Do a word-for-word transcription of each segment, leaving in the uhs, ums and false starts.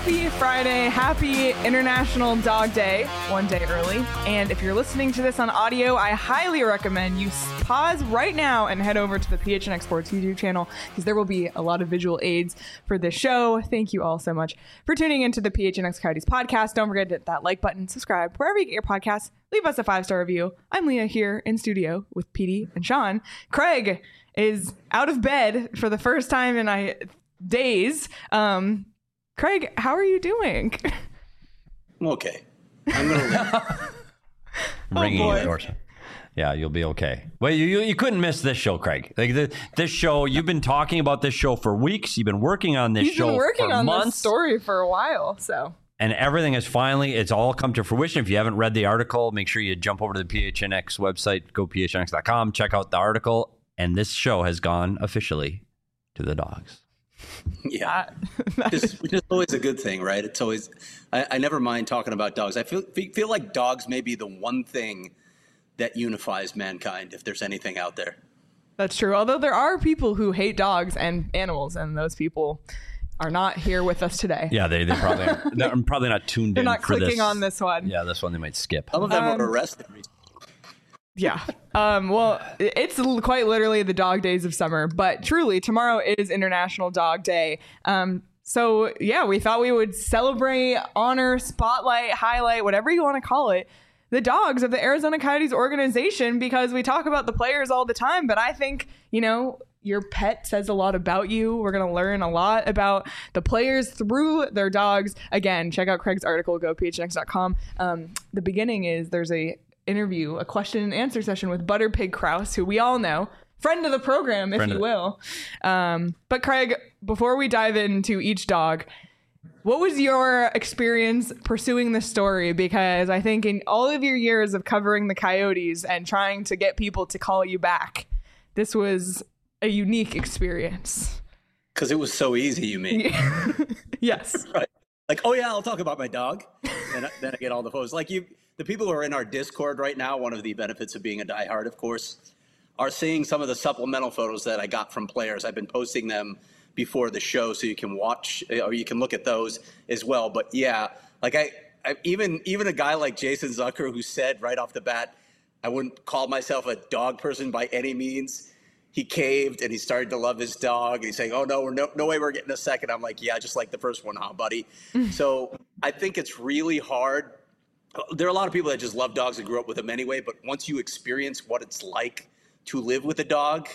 Happy Friday. Happy International Dog Day. One day early. And if you're listening to this on audio, I highly recommend you pause right now and head over to the P H N X Sports YouTube channel because there will be a lot of visual aids for this show. Thank you all so much for tuning into the P H N X Coyotes podcast. Don't forget to hit that like button, subscribe, wherever you get your podcasts. Leave us a five-star review. I'm Leah here in studio with Petey and Sean. Craig is out of bed for the first time in I, days. Um, Craig, how are you doing? I'm okay. I'm going to Ringing oh endorsement. Yeah, you'll be okay. Well, you, you you couldn't miss this show, Craig. Like the, this show, you've been talking about this show for weeks. You've been working on this He's show been working for on months. this story for a while, so. And everything is finally, it's all come to fruition. If you haven't read the article, make sure you jump over to the P H N X website, go P H N X dot com, check out the article. And this show has gone officially to the dogs. Yeah, which is, which is always a good thing, right? It's always, I, I never mind talking about dogs. I feel feel like dogs may be the one thing that unifies mankind, if there's anything out there. That's true. Although there are people who hate dogs and animals, and those people are not here with us today. Yeah, they, they probably are. They're probably not tuned They're in not for clicking this. on this one. Yeah, this one they might skip. Some of them Um, were arrested recently. Yeah. Um, well, it's l- quite literally the dog days of summer, but truly tomorrow is International Dog Day. Um, so yeah, we thought we would celebrate, honor, spotlight, highlight, whatever you want to call it, the dogs of the Arizona Coyotes organization, because we talk about the players all the time, but I think, you know, your pet says a lot about you. We're going to learn a lot about the players through their dogs. Again, check out Craig's article, go P H N X dot com. Um, the beginning is there's a interview, a question and answer session with Butter Pig Kraus, who we all know, friend of the program, if Friend you of- will. Um, but Craig, before we dive into each dog, what was your experience pursuing this story? Because I think in all of your years of covering the Coyotes and trying to get people to call you back, this was a unique experience. Because it was so easy, you mean? Yes. Right. Like, oh yeah, I'll talk about my dog. And I- then I get all the photos. Like you, the people who are in our Discord right now, one of the benefits of being a diehard, of course, are seeing some of the supplemental photos that I got from players. I've been posting them before the show so you can watch or you can look at those as well. But yeah, like I, I even even a guy like Jason Zucker, who said right off the bat, I wouldn't call myself a dog person by any means. He caved and he started to love his dog. And he's saying, oh, no, we're no, no way we're getting a second. I'm like, yeah, just like the first one, huh, buddy? So I think it's really hard. There are a lot of people that just love dogs and grew up with them anyway. But once you experience what it's like to live with a dog,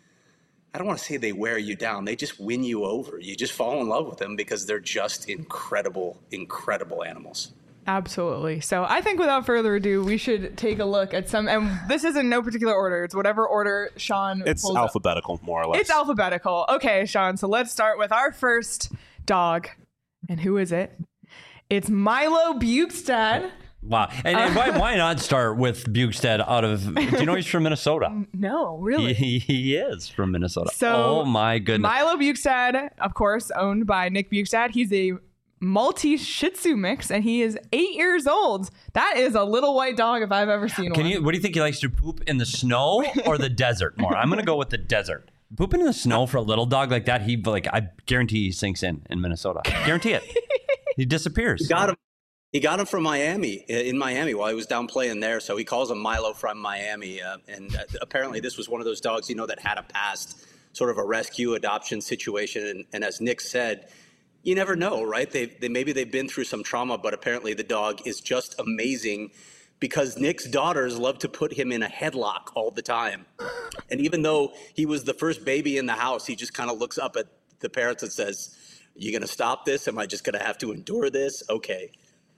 I don't want to say they wear you down. They just win you over. You just fall in love with them because they're just incredible, incredible animals. Absolutely. So I think without further ado, we should take a look at some, and this is in no particular order. It's whatever order Sean It's pulls up. alphabetical, more or less. It's alphabetical. Okay, Sean. So let's start with our first dog. And who is it? It's Milo Bjugstad. Wow. And, and why, why not start with Bjugstad out of, do you know he's from Minnesota? No, really. He, he is from Minnesota. So oh, my goodness. Milo Bjugstad, of course, owned by Nick Bjugstad. He's a Maltese Shih Tzu mix, and he is eight years old. That is a little white dog if I've ever seen Can one. you? What do you think he likes to poop in the snow or the desert more? I'm going to go with the desert. Pooping in the snow for a little dog like that, he like I guarantee he sinks in in Minnesota. Guarantee it. He disappears. He got him. He got him from Miami, in Miami, while he was down playing there. So he calls him Milo from Miami. Uh, and uh, apparently this was one of those dogs, you know, that had a past sort of a rescue adoption situation. And, and as Nick said, you never know, right? They, they maybe they've been through some trauma, but apparently the dog is just amazing because Nick's daughters love to put him in a headlock all the time. And even though he was the first baby in the house, he just kind of looks up at the parents and says, "Are you going to stop this? Am I just going to have to endure this? Okay."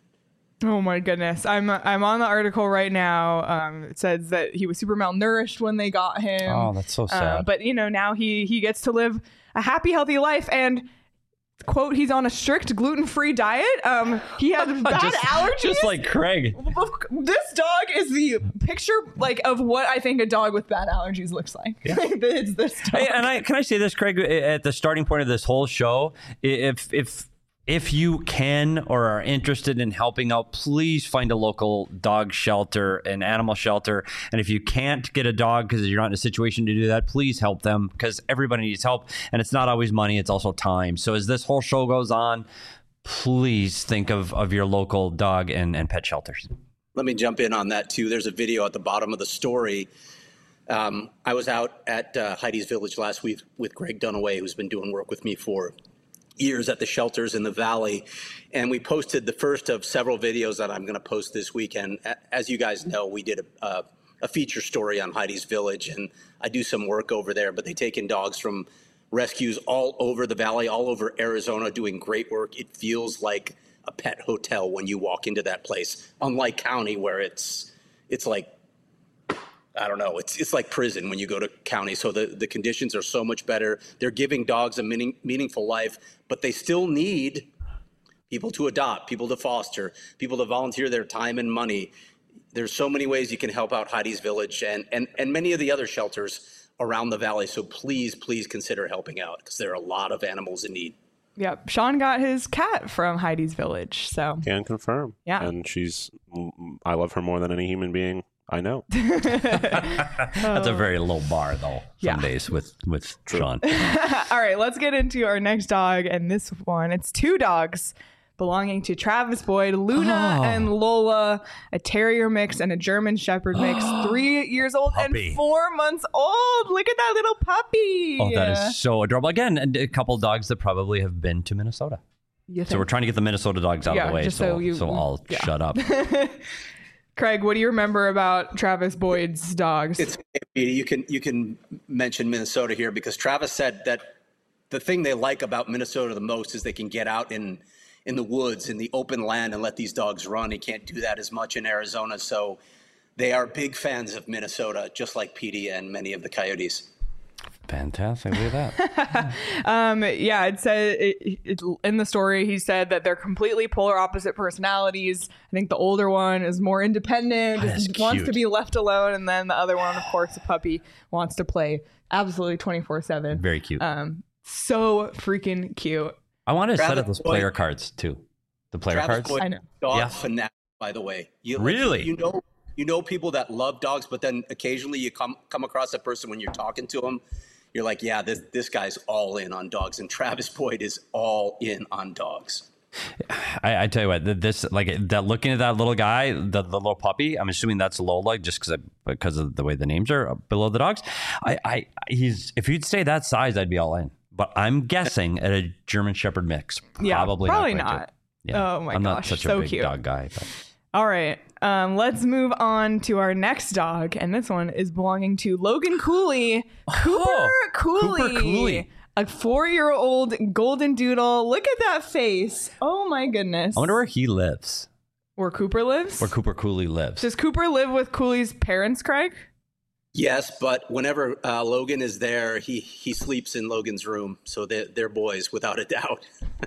Oh my goodness. I'm I'm on the article right now. Um, it says that he was super malnourished when they got him. Oh, that's so Uh, sad. but you know, now he he gets to live a happy, healthy life, and quote, he's on a strict gluten-free diet. Um, he has bad just, allergies. Just like Craig. This dog is the picture like of what I think a dog with bad allergies looks like. Yeah. It's this dog. Hey, and I can I say this, Craig, at the starting point of this whole show, if if if you can or are interested in helping out, please find a local dog shelter, an animal shelter. And if you can't get a dog because you're not in a situation to do that, please help them because everybody needs help. And it's not always money, it's also time. So as this whole show goes on, please think of, of your local dog and, and pet shelters. Let me jump in on that too. There's a video at the bottom of the story. Um, I was out at uh, Heidi's Village last week with Greg Dunaway, who's been doing work with me for years at the shelters in the Valley. And we posted the first of several videos that I'm going to post this weekend. As you guys know, we did a, a, a feature story on Heidi's Village, and I do some work over there, but they take in dogs from rescues all over the Valley, all over Arizona, doing great work. It feels like a pet hotel when you walk into that place, unlike county where it's it's like, I don't know, it's it's like prison when you go to county. So the, the conditions are so much better. They're giving dogs a meaning, meaningful life, but they still need people to adopt, people to foster, people to volunteer their time and money. There's so many ways you can help out Heidi's Village and, and, and many of the other shelters around the Valley. So please, please consider helping out because there are a lot of animals in need. Yep. Sean got his cat from Heidi's Village. So Can confirm. Yeah. And she's, I love her more than any human being I know. That's a very low bar, though, some Yeah. days with, with Sean. All right, let's get into our next dog. And this one, it's two dogs belonging to Travis Boyd, Luna Oh. and Lola, a terrier mix and a German shepherd mix, three years old Puppy. and four months old. Look at that little puppy. Oh, that is so adorable. Again, and a couple dogs that probably have been to Minnesota. You So we're think? trying to get the Minnesota dogs out Yeah, of the way, just so, so you- so I'll yeah. shut up. Craig, what do you remember about Travis Boyd's dogs? It's you can you can mention Minnesota here because Travis said that the thing they like about Minnesota the most is they can get out in in the woods, in the open land, and let these dogs run. He can't do that as much in Arizona, so they are big fans of Minnesota, just like Petey and many of the Coyotes. Fantastic. Look at that. Um, yeah, it said it, it, in the story, he said that they're completely polar opposite personalities. I think the older one is more independent, That is just wants cute. to be left alone. And then the other one, of course, the puppy, wants to play absolutely twenty-four seven. Very cute. Um, so freaking cute. I want to set Travis up those Boyd- player cards, too. The player Travis cards. Boyd, I know. dog Yeah. fanatic, by the way. You, Really? You know, you know people that love dogs, but then occasionally you come come across a person when you're talking to them. You're like, yeah, this this guy's all in on dogs, and Travis Boyd is all in on dogs. I, I tell you what, th- this like that. Looking at that little guy, the, the little puppy. I'm assuming that's Lola, just because because of the way the names are below the dogs. I, I he's if you'd say that size, I'd be all in. But I'm guessing at a German Shepherd mix, Yeah, probably probably not. quite not. good. Yeah. Oh my I'm not gosh, such so a big cute. dog guy. But. All right. Um, let's move on to our next dog. And this one is belonging to Logan Cooley. Cooper Oh, Cooley. Cooper Cooley. A four-year-old golden doodle. Look at that face. Oh my goodness. I wonder where he lives. Where Cooper lives? Where Cooper Cooley lives. Does Cooper live with Cooley's parents, Craig? Yes, but whenever uh, Logan is there, he he sleeps in Logan's room, so they're, they're boys without a doubt.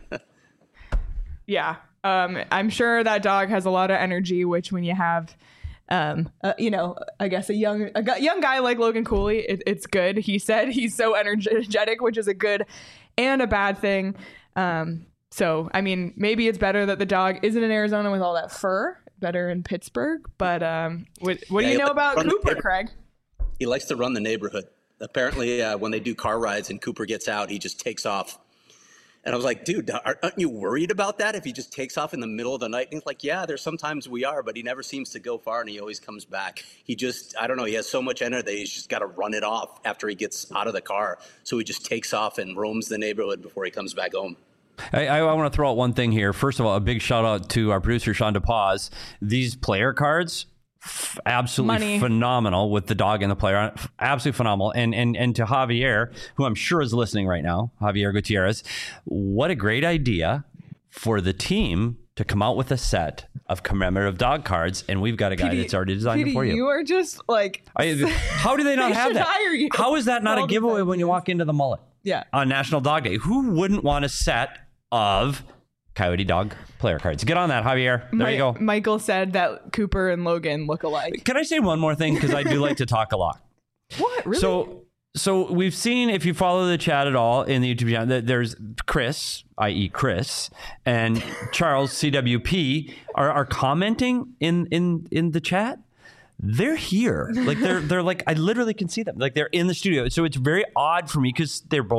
Yeah. Um, I'm sure that dog has a lot of energy, which when you have, um, uh, you know, I guess a young a gu- young guy like Logan Cooley, it, it's good. He said he's so energetic, which is a good and a bad thing. Um, so, I mean, maybe it's better that the dog isn't in Arizona with all that fur, better in Pittsburgh. But um, what, what do Yeah, you he know likes about to run the Cooper, neighborhood. Craig? He likes to run the neighborhood. Apparently, uh, when they do car rides and Cooper gets out, he just takes off. And I was like, dude, aren't aren't you worried about that if he just takes off in the middle of the night? And he's like, yeah, there's sometimes we are, but he never seems to go far and he always comes back. He just, I don't know, he has so much energy that he's just got to run it off after he gets out of the car. So he just takes off and roams the neighborhood before he comes back home. I, I want to throw out one thing here. First of all, a big shout out to our producer, Sean DePaz. These player cards, f- absolutely Money. phenomenal with the dog and the player. F- Absolutely phenomenal. And, and, and to Javier, who I'm sure is listening right now, Javier Gutierrez, what a great idea for the team to come out with a set of commemorative dog cards. And we've got a guy P D that's already designed P D, it for you. You are just like, I, how do they not They have should that? hire you How is that not for a all these giveaway when you ideas. walk into the mullet? yeah. On National Dog Day. Who wouldn't want a set of Coyote Dog player cards? Get on that, Javier. There Mi- you go. Michael said that Cooper and Logan look alike. Can I say one more thing? Because I do like to talk a lot. What? Really? So, so we've seen, if you follow the chat at all in the YouTube channel, that there's Chris, that is. Chris, and Charles C W P are, are commenting in, in, in the chat. They're here. Like they're they're like I literally can see them. Like they're in the studio. So it's very odd for me because they're both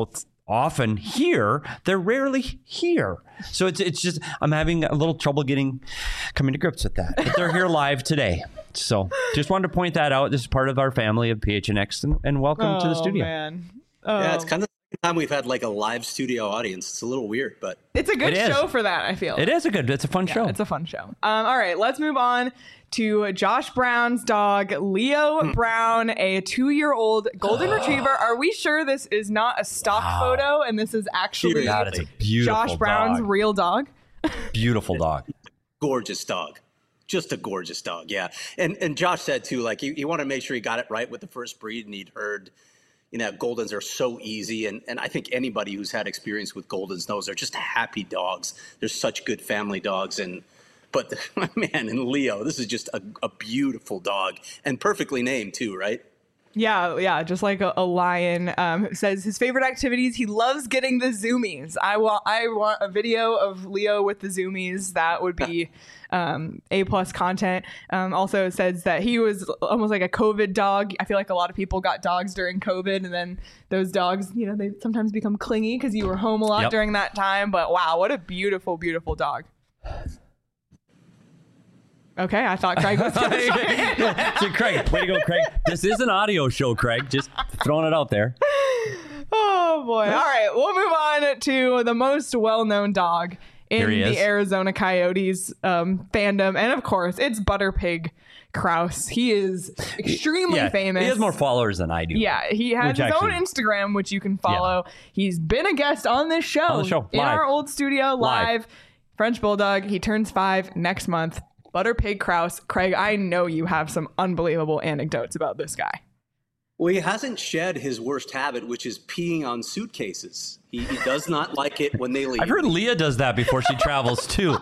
often here, they're rarely here. So it's it's just I'm having a little trouble getting coming to grips with that. But they're here live today. So just wanted to point that out. This is part of our family of P H N X, and, and welcome oh, to the studio. Man. Oh. Yeah, it's kind of the time we've had like a live studio audience. It's a little weird, but it's a good show for that, I feel. It is a good, it's a fun yeah, show. It's a fun show. Um, all right, let's move on to Josh Brown's dog, Leo Brown, a two-year-old golden retriever. Are we sure this is not a stock wow. photo and this is actually God, it's a beautiful Josh Brown's dog. real dog? Beautiful dog. Gorgeous dog. Just a gorgeous dog, yeah. And and Josh said, too, like, he, he wanted to make sure he got it right with the first breed, and he'd heard, you know, Goldens are so easy. And, and I think anybody who's had experience with Goldens knows they're just happy dogs. They're such good family dogs. And But, man, and Leo, this is just a, a beautiful dog. And perfectly named, too, right? Yeah, yeah, just like a, a lion. Um, says his favorite activities, he loves getting the zoomies. I want I want a video of Leo with the zoomies. That would be um, A-plus content. Um, also says that he was almost like a COVID dog. I feel like a lot of people got dogs during COVID, and then those dogs, you know, they sometimes become clingy because you were home a lot yep. during that time. But wow, what a beautiful, beautiful dog. Okay, I thought Craig was going to start. So Craig, way to go, Craig. This is an audio show, Craig. Just throwing it out there. Oh, boy. All right, we'll move on to the most well-known dog in the is. Arizona Coyotes um, fandom. And, of course, it's Butterpig Kraus. He is extremely yeah, famous. He has more followers than I do. Yeah, he has his actually, own Instagram, which you can follow. Yeah. He's been a guest on this show. On the show, in live. our old studio, live. live. French Bulldog. He turns five next month. Butterpig Kraus. Craig, I know you have some unbelievable anecdotes about this guy. Well, he hasn't shed his worst habit, which is peeing on suitcases. He, he does not like it when they leave. I've heard Leah does that before she travels, too.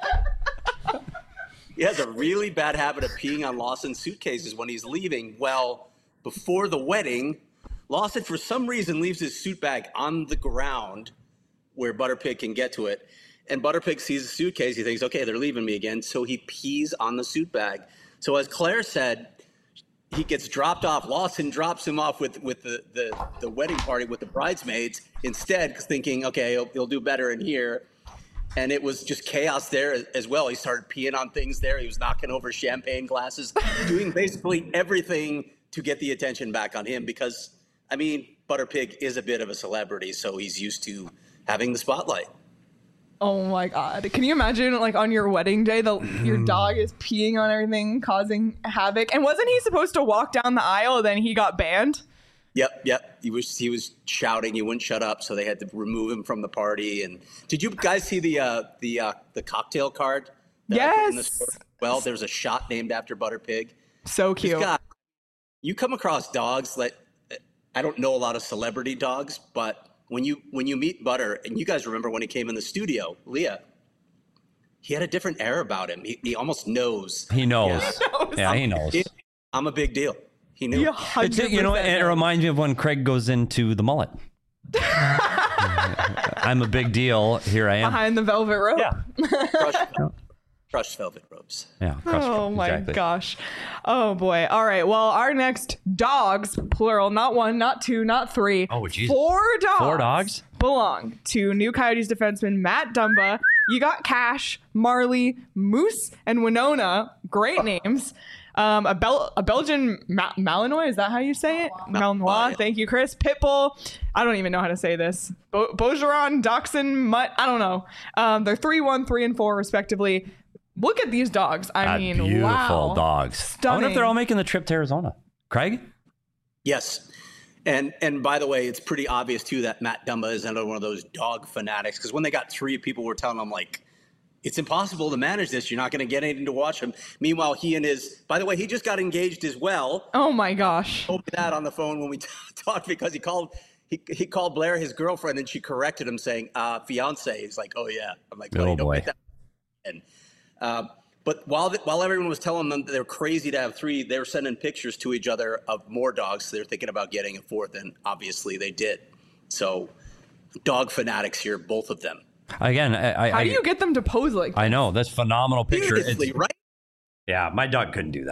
He has a really bad habit of peeing on Lawson's suitcases when he's leaving. Well, before the wedding, Lawson, for some reason, leaves his suit bag on the ground where Butterpig can get to it. And Butterpig sees the suitcase. He thinks, okay, they're leaving me again. So he pees on the suit bag. So as Claire said, he gets dropped off. Lawson drops him off with, with the, the, the wedding party with the bridesmaids instead, thinking, okay, he'll, he'll do better in here. And it was just chaos there as well. He started peeing on things there. He was knocking over champagne glasses, doing basically everything to get the attention back on him because, I mean, Butterpig is a bit of a celebrity, so he's used to having the spotlight. Oh my God. Can you imagine like on your wedding day, the your dog is peeing on everything, causing havoc? And wasn't he supposed to walk down the aisle, then he got banned? Yep, yep. He was he was shouting. He wouldn't shut up, so they had to remove him from the party. And did you guys see the uh, the uh, the cocktail card? That I put in the store? Well, there's a shot named after Butterpig. So cute. Guy, you come across dogs that I don't know a lot of celebrity dogs, but when you when you meet Butter, and you guys remember when he came in the studio, Leah, he had a different air about him. He, he almost knows. He knows. Yeah, he knows. Yeah, he knows. It, I'm a big deal. He knew. It's, you know, it reminds me of when Craig goes into the mullet. I'm a big deal. Here I am. Behind the velvet rope. Yeah. Crushed, crushed velvet ropes. Yeah. Crushed, oh my exactly. gosh. Oh boy. All right. Well, our next dogs, plural, not one, not two, not three. Oh, geez. Four dogs. Four dogs belong to New Coyotes defenseman Matt Dumba. You got Cash, Marley, Moose, and Winona. Great names. Um, a, Bel- a Belgian Ma- Malinois, is that how you say it? Malinois. Malinois. Thank you, Chris. Pitbull. I don't even know how to say this. Bo- Bogeron, Dachshund, Mutt. I don't know. Um, they're three, one, three, and four, respectively. Look at these dogs. I That mean, beautiful wow. dogs. Stunning. I wonder if they're all making the trip to Arizona. Craig? Yes. And and by the way, it's pretty obvious, too, that Matt Dumba is another one of those dog fanatics. Because when they got three, people were telling him, like, it's impossible to manage this. You're not going to get anything to watch him. Meanwhile, he and his, by the way, he just got engaged as well. Oh my gosh. He told me that on the phone when we t- talked because he called he he called Blair his girlfriend and she corrected him saying, uh, fiance. He's like, oh yeah. I'm like, well, oh you don't boy. get that. And, uh, but while the, while everyone was telling them that they're crazy to have three, they were sending pictures to each other of more dogs. So they're thinking about getting a fourth, and obviously they did. So dog fanatics here, both of them. Again, I, I, How do you get them to pose like that? I know. That's a phenomenal picture. Beautifully, It's, right? yeah, my dog couldn't do that.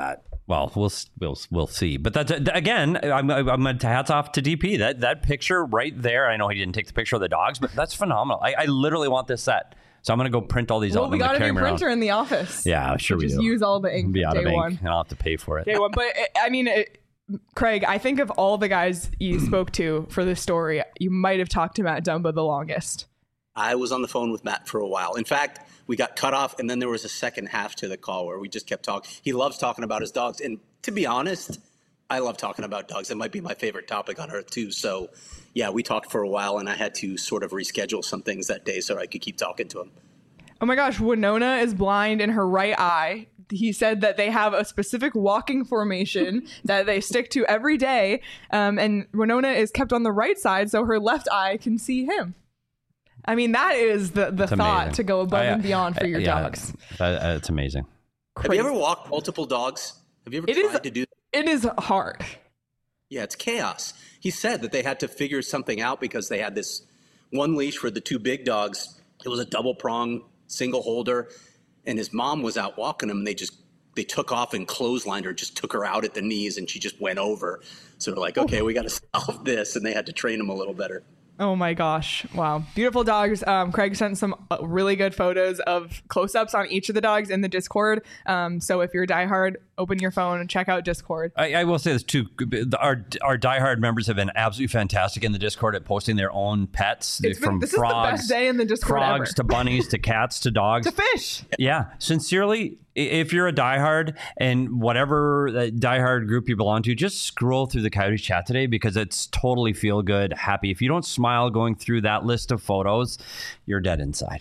Well, we'll we'll we'll see. But that's again, I'm I'm hats off to D P. That that picture right there. I know he didn't take the picture of the dogs, but that's phenomenal. I, I literally want this set, so I'm gonna go print all these well, out. We got a new printer in the office. Yeah, sure we just do. Use all the ink. Be out day of ink, one. and I'll have to pay for it. Day one, but it, I mean, it, Craig, I think of all the guys you spoke to for this story, you might have talked to Matt Dumba the longest. I was on the phone with Matt for a while. In fact, we got cut off, and then there was a second half to the call where we just kept talking. He loves talking about his dogs. And to be honest, I love talking about dogs. It might be my favorite topic on earth, too. So, yeah, we talked for a while, and I had to sort of reschedule some things that day so I could keep talking to him. Oh, my gosh. Winona is blind in her right eye. He said that they have a specific walking formation that they stick to every day. Um, and Winona is kept on the right side so her left eye can see him. I mean, that is the, the thought amazing. to go above I, and beyond for your yeah, dogs. That, uh, it's amazing. Crazy. Have you ever walked multiple dogs? Have you ever it tried is, to do that? It is hard. Yeah, it's chaos. He said that they had to figure something out because they had this one leash for the two big dogs. It was a double prong, single holder, and his mom was out walking him, and they just they took off and clotheslined her, just took her out at the knees, and she just went over. So they're like, okay, we got to solve this, and they had to train him a little better. Oh my gosh. Wow. Beautiful dogs. Um, Craig sent some uh, really good photos of close-ups on each of the dogs in the Discord. Um, so if you're a diehard, open your phone and check out Discord. I, I will say this too. Our our diehard members have been absolutely fantastic in the Discord at posting their own pets. It's from been, this frogs, is the best day in the Discord frogs ever. to bunnies to cats to dogs to fish. Yeah. Sincerely, if you're a diehard and whatever diehard group you belong to, just scroll through the Coyotes chat today because it's totally feel good, happy. If you don't smile going through that list of photos, you're dead inside.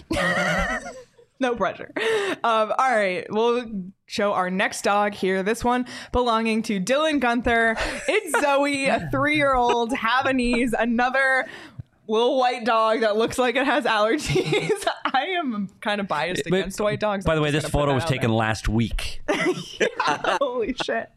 No pressure. Um, all right. We'll show our next dog here. This one belonging to Dylan Gunther. It's Zoe, a three-year-old Havanese, another little white dog that looks like it has allergies. I am kind of biased But, against white dogs. By the I'm way, just this gonna put photo that was out taken there. last week. Yeah, holy shit.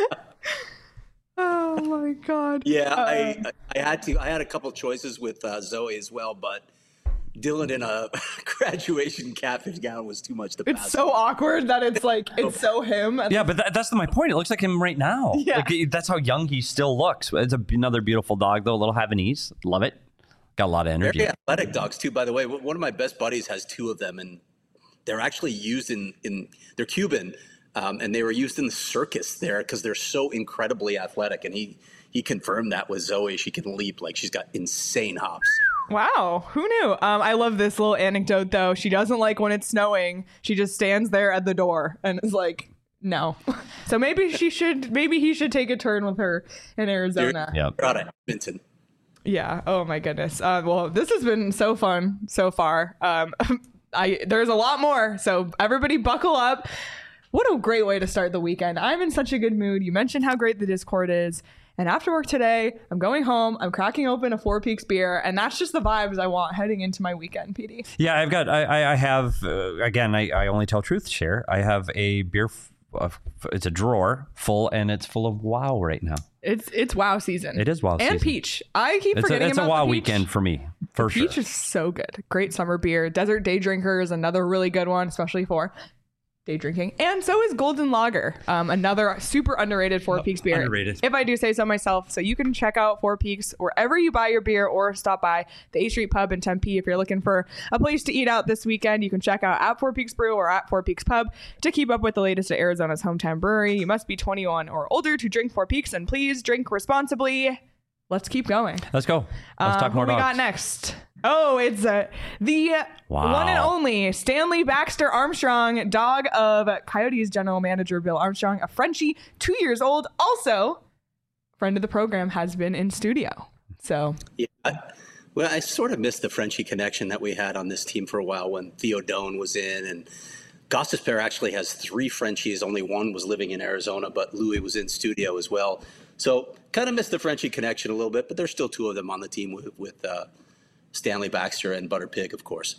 Oh my god. Yeah, Uh, I I had to. I had a couple choices with uh, Zoe as well, but Dylan in a graduation catfish gown was too much to pass. It's so awkward that it's like it's so him. Yeah, but that, that's my point. It looks like him right now. Yeah. Like, that's how young he still looks. It's a, another beautiful dog, though. A little Havanese. Love it. Got a lot of energy. Very athletic dogs too, by the way. One of my best buddies has two of them, and they're actually used in in they're Cuban, um, and they were used in the circus there because they're so incredibly athletic. And he he confirmed that with Zoe. She can leap like she's got insane hops. Wow, who knew? Um, I love this little anecdote though. She doesn't like when it's snowing. She just stands there at the door and is like, no. So maybe she should. Maybe he should take a turn with her in Arizona. Yeah. They're out of Edmonton. Yeah. Oh my goodness. Uh, well, this has been so fun so far. Um, I there's a lot more. So everybody, buckle up. What a great way to start the weekend. I'm in such a good mood. You mentioned how great the Discord is. And after work today, I'm going home. I'm cracking open a Four Peaks beer, and that's just the vibes I want heading into my weekend, P D. Yeah, I've got, I, I have, uh, again, I, I only tell truth share. I have a beer, f- uh, it's a drawer full, and it's full of WoW right now. It's it's WoW season. It is WoW and season. And peach. I keep It's forgetting a, it's about a WoW the peach. weekend for me, for sure. Peach is so good. Great summer beer. Desert Day Drinker is another really good one, especially for day drinking. And so is Golden Lager, um, another super underrated Four Peaks beer. underrated. If I do say so myself. So you can check out Four Peaks wherever you buy your beer or stop by the A Street Pub in Tempe. If you're looking for a place to eat out this weekend, you can check out at Four Peaks Brew or at Four Peaks Pub to keep up with the latest at Arizona's hometown brewery. You must be twenty-one or older to drink Four Peaks, and please drink responsibly. Let's keep going. Let's go. Let's Uh, talk more who we dogs. got next? Oh, it's uh, the Wow. one and only Stanley Baxter Armstrong, dog of Coyotes general manager Bill Armstrong, a Frenchie, two years old. Also, friend of the program, has been in studio. So, Yeah. I, well, I sort of missed the Frenchie connection that we had on this team for a while when Theo Doan was in, and Gostisbehere actually has three Frenchies. Only one was living in Arizona, but Louis was in studio as well. So kind of missed the Frenchie connection a little bit, but there's still two of them on the team with, with uh, Stanley Baxter and Butter Pig, of course.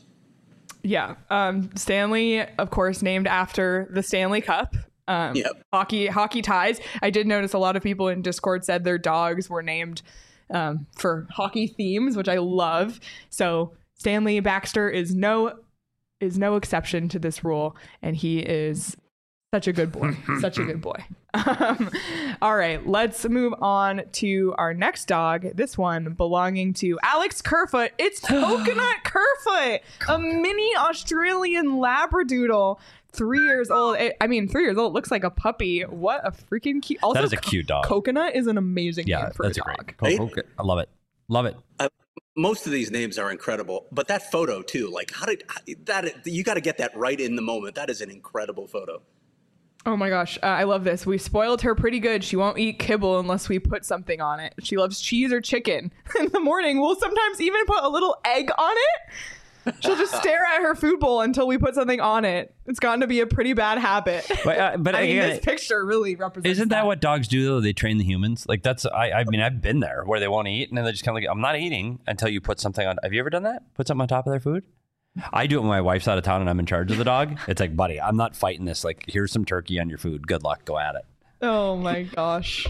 yeah, um, Stanley, of course, named after the Stanley Cup. Um, Yep. Hockey hockey ties. I did notice a lot of people in Discord said their dogs were named um, for hockey themes, which I love. So Stanley Baxter is no is no exception to this rule, and he is Such a good boy. Such a good boy. Um, all right, let's move on to our next dog. This one belonging to Alex Kerfoot. It's Coconut Kerfoot, a mini Australian Labradoodle. Three years old. It, I mean, three years old. Looks like a puppy. What a freaking cute. Also, that is a cute dog. Coconut is an amazing yeah, name for that's a dog. A great. Co- co- I love it. Love it. Uh, most of these names are incredible, but that photo too. Like, how did how, that? You got to get that right in the moment. That is an incredible photo. Oh my gosh, uh, I love this. We spoiled her pretty good. She won't eat kibble unless we put something on it. She loves cheese or chicken. In the morning, we'll sometimes even put a little egg on it. She'll just stare at her food bowl until we put something on it. It's gotten to be a pretty bad habit. But, uh, but I again, mean, this picture really represents. Isn't that, that what dogs do though? They train the humans. Like that's. I. I mean, I've been there where they won't eat, and then they just kind of like, I'm not eating until you put something on. Have you ever done that? Put something on top of their food? I do it when my wife's out of town and I'm in charge of the dog. It's like, buddy, I'm not fighting this. Like, here's some turkey on your food. Good luck. Go at it. Oh my gosh,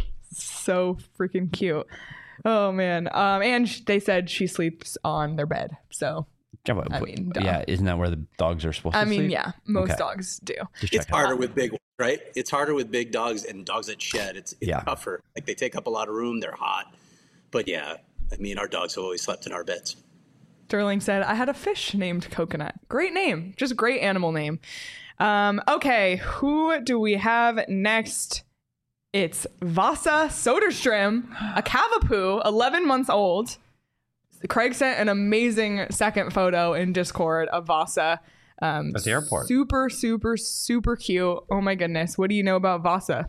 so freaking cute. Oh man. Um, and sh- they said she sleeps on their bed. So. Yeah, but, I mean, duh. yeah, isn't that where the dogs are supposed I to mean, sleep? yeah, most Okay. dogs do. Just It's checking. harder with big ones, right? It's harder with big dogs and dogs that shed. It's, it's Yeah. tougher. Like they take up a lot of room. They're hot. But yeah, I mean, our dogs have always slept in our beds. Sterling said, I had a fish named Coconut. Great name. Just great animal name. Um, okay, who do we have next? It's Vasa Soderstrom, a Cavapoo, eleven months old. Craig sent an amazing second photo in Discord of Vasa. Um, At the airport. Super, super, super cute. Oh my goodness. What do you know about Vasa?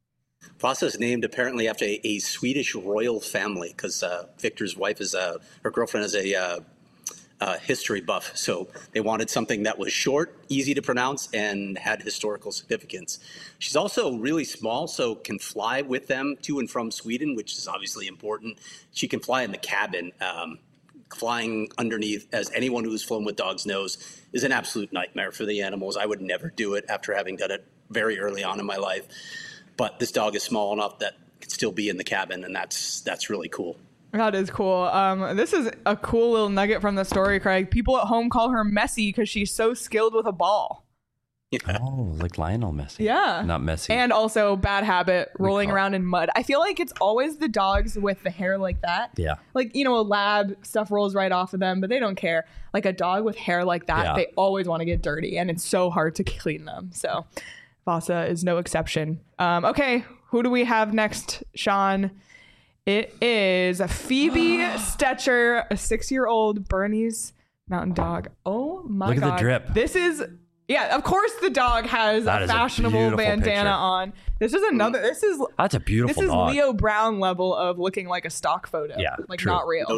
Vasa is named apparently after a, a Swedish royal family because uh, Victor's wife is a, her girlfriend is a uh, uh, history buff. So they wanted something that was short, easy to pronounce, and had historical significance. She's also really small, so can fly with them to and from Sweden, which is obviously important. She can fly in the cabin. Um, flying underneath, as anyone who's flown with dogs knows, is an absolute nightmare for the animals. I would never do it after having done it very early on in my life. But this dog is small enough that it can still be in the cabin, and that's that's really cool. That is cool. Um, this is a cool little nugget from the story, Craig. People at home call her Messi because she's so skilled with a ball. Yeah. Oh, like Lionel Messi. Yeah. Not Messi. And also bad habit, rolling call- around in mud. I feel like it's always the dogs with the hair like that. Yeah. Like, you know, a lab, stuff rolls right off of them, but they don't care. Like a dog with hair like that, Yeah. they always want to get dirty, and it's so hard to clean them. So Vasa is no exception. Um, okay, who do we have next, Sean? It is Phoebe Stetcher, a six-year-old Bernese mountain dog. Oh my Look at the god! drip. This is, yeah. Of course, the dog has That a is a fashionable beautiful bandana picture. on. This is another. This is That's a this beautiful is dog. Leo Brown level of looking like a stock photo. Yeah, like true. not real.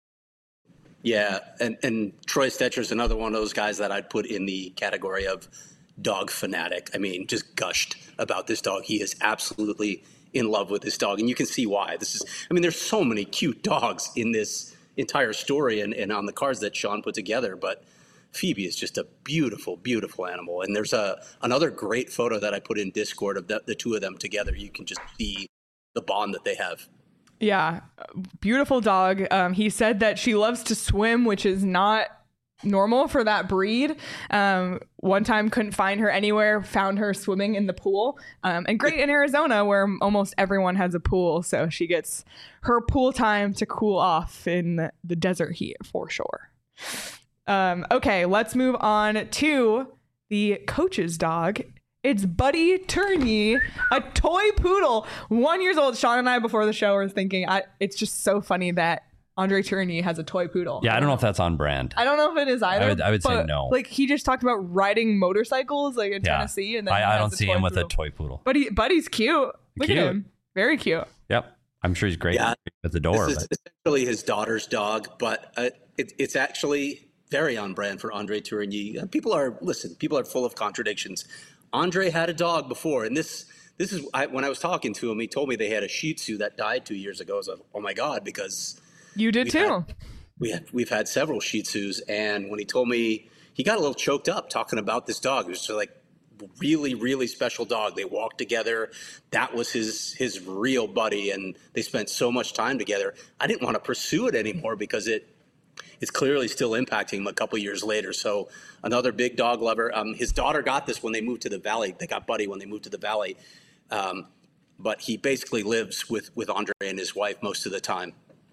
Yeah, and, and Troy Stetcher's another one of those guys that I'd put in the category of dog fanatic. I mean, just gushed about this dog. He is absolutely in love with this dog, and you can see why. This is, I mean, there's so many cute dogs in this entire story and, and on the cards that Sean put together, but Phoebe is just a beautiful, beautiful animal. And there's a another great photo that I put in Discord of the, the two of them together. You can just see the bond that they have. Yeah, beautiful dog. Um, he said that she loves to swim, which is not normal for that breed. Um, one time couldn't find her anywhere, found her swimming in the pool. Um, and great in Arizona where almost everyone has a pool. So she gets her pool time to cool off in the desert heat for sure. Um, okay, let's move on to the coach's dog. It's Buddy Tourney, a toy poodle, one years old. Sean and I, before the show, were thinking, I, it's just so funny that Andre Tourney has a toy poodle. Yeah, I don't know if that's on brand. I don't know if it is either. I would- I would say but, no. Like, he just talked about riding motorcycles, like in Yeah. Tennessee, and then he I, I has don't a see toy him with poodle. a toy poodle. But he, Buddy's cute. Look Cute. at him, very cute. Yep. I'm sure he's great Yeah. at the door. This is But essentially his daughter's dog, but uh, it, it's actually very on brand for Andre Tourigny. Uh, People are, listen, people are full of contradictions. Andre had a dog before, and this this is, I, when I was talking to him, he told me they had a Shih Tzu that died two years ago. I was like, oh my God, because You did We too. had- we have, we've had several Shih Tzus, and when he told me, he got a little choked up talking about this dog. It was just like really, really special dog. They walked together. That was his his real buddy, and they spent so much time together. I didn't want to pursue it anymore because it it's clearly still impacting him a couple years later. So another big dog lover. Um, his daughter got this when they moved to the Valley. They got Buddy when they moved to the Valley. Um, but he basically lives with, with Andre and his wife most of the time.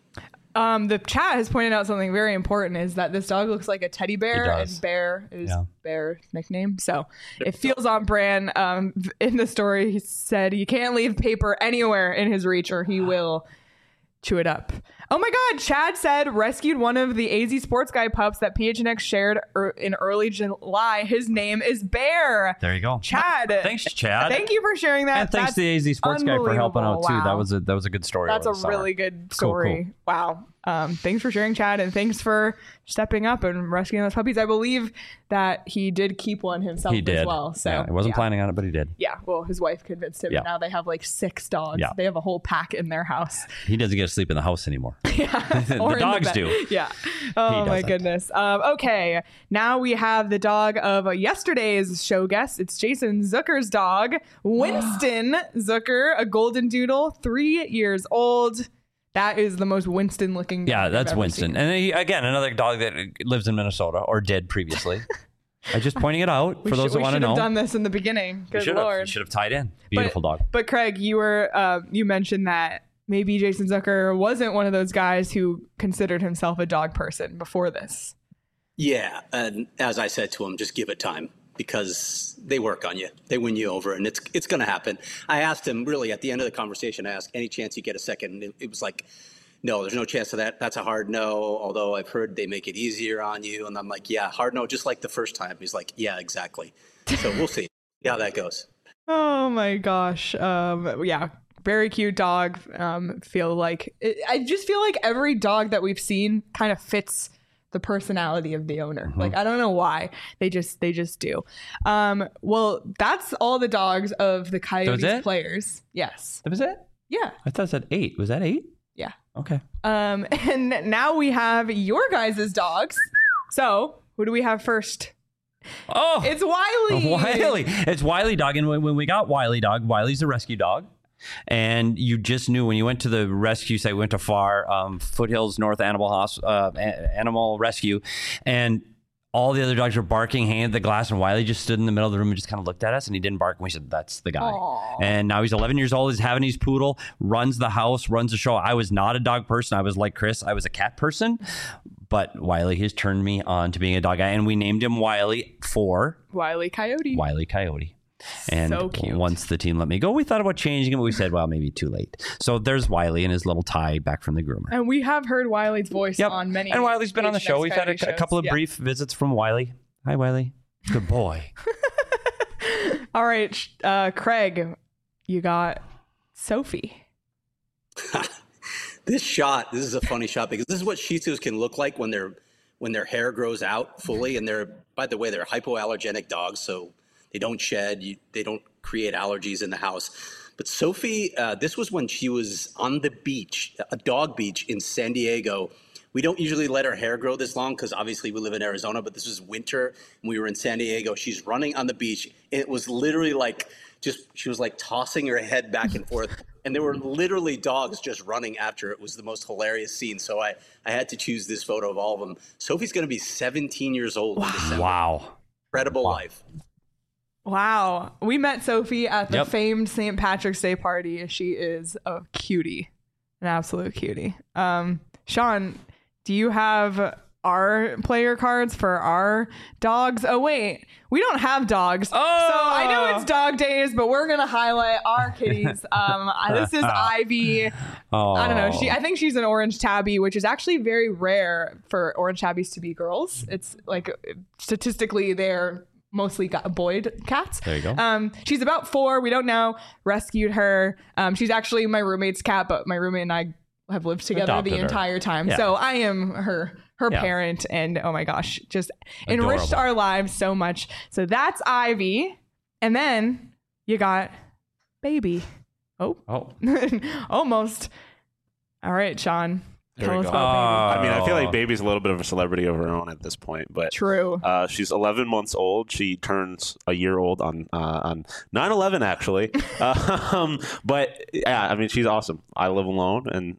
Um, the chat has pointed out something very important, is that this dog looks like a teddy bear, It does. and Bear is Yeah. Bear's nickname. So it feels on brand. Um, in the story, he said he can't leave paper anywhere in his reach or he will chew it up. Oh my God, Chad said rescued one of the A Z Sports Guy pups that P H N X shared er- in early July. His name is Bear. There you go. Chad. Thanks, Chad. Thank you for sharing that. And thanks That's to the A Z Sports Guy for helping out too. unbelievable. That Wow. was a that was a good story. That's over a the summer. really good Cool, story. cool. Wow. Um, thanks for sharing, Chad, and thanks for stepping up and rescuing those puppies. I believe that he did keep one himself He did. as well. So yeah, he wasn't yeah. planning on it, but he did. Yeah, well, his wife convinced him, Yeah. and now they have like six dogs. Yeah. They have a whole pack in their house. He doesn't get to sleep in the house anymore. the the dogs do. Yeah. Oh my doesn't. goodness. Um, okay, now we have the dog of yesterday's show guest. It's Jason Zucker's dog, Winston Zucker, a golden doodle, three years old. That is the most Winston looking. Yeah, dog I've that's ever Winston. seen. And then he, again, another dog that lives in Minnesota or did previously. I'm just pointing it out We for those should- that we want to should have know. done this in the beginning. We Good should have. lord. You should have tied in. Beautiful but, dog. But Craig, you were uh, you mentioned that maybe Jason Zucker wasn't one of those guys who considered himself a dog person before this. Yeah, and as I said to him, just give it time because they work on you. They win you over, and it's it's going to happen. I asked him really at the end of the conversation, I asked, any chance you get a second? And it, it was like, no, there's no chance of that. That's a hard no, although I've heard they make it easier on you. And I'm like, yeah, hard no, just like the first time. He's like, yeah, exactly. So we'll see how that goes. Oh my gosh. Um, yeah, very cute dog. Um, feel like it, I just feel like every dog that we've seen kind of fits the personality of the owner. Mm-hmm. Like I don't know why they just they just do. Um, well, that's all the dogs of the Coyotes it? players. Yes. That was it? Yeah. I thought it said eight. Was that eight? Yeah. Okay. Um, and now we have your guys' dogs. So who do we have first? Oh, It's Wiley. Wiley. It's Wiley dog. And when, when we got Wiley dog, Wiley's a rescue dog. And you just knew when you went to the rescue site, we went to F A R, um, Foothills North Animal Hos- uh, A- Animal Rescue, and all the other dogs were barking, handed the glass, and Wiley just stood in the middle of the room and just kind of looked at us, and he didn't bark. And we said, that's the guy. Aww. And now he's eleven years old. He's Havanese poodle, runs the house, runs the show. I was not a dog person. I was like Chris. I was a cat person. But Wiley has turned me on to being a dog guy, and we named him Wiley for Wiley Coyote. Wiley Coyote. And So cute. once the team let me go, we thought about changing him, but we said, well, maybe too late. So there's Wiley and his little tie back from the groomer. And we have heard Wiley's voice Yep. on many. And Wiley's been on the H N X show. We've had a, Coyote a couple of shows. Yeah. brief visits from Wiley. Hi, Wiley. Good boy. All right, sh- uh, Craig, you got Sophie. This shot, this is a funny shot because this is what Shih Tzus can look like when their when their hair grows out fully. And they're, by the way, they're hypoallergenic dogs, so they don't shed, you, they don't create allergies in the house. But Sophie, uh, this was when she was on the beach, a dog beach in San Diego. We don't usually let her hair grow this long because obviously we live in Arizona, but this was winter and we were in San Diego. She's running on the beach. It was literally like just, she was like tossing her head back and forth. And there were literally dogs just running after her. It was the most hilarious scene. So I, I had to choose this photo of all of them. Sophie's going to be seventeen years old in December. Wow. Incredible life. Wow, we met Sophie at the Yep. famed Saint Patrick's Day party. She is a cutie, an absolute cutie. Um, Sean, do you have our player cards for our dogs? Oh wait, we don't have dogs. Oh. So I know it's dog days, but we're gonna highlight our kitties. Um, this is Ivy. Oh. I don't know. She, I think she's an orange tabby, which is actually very rare for orange tabbies to be girls. It's like statistically they're mostly got boy cats. There you go. Um, she's about four. We don't know. Rescued her. Um, she's actually my roommate's cat, but my roommate and I have lived together Adopted the her. entire time. Yeah. So I am her her Yeah. parent, and oh my gosh, just enriched Adorable. our lives so much. So that's Ivy, and then you got Baby. Oh, Oh. almost. All right, Sean. There Tell we us go. about I mean, I feel like Oh. Baby's a little bit of a celebrity of her own at this point, but Baby. True. uh, she's eleven months old. She turns a year old on uh, on nine eleven, actually. um, but yeah, I mean, she's awesome. I live alone, and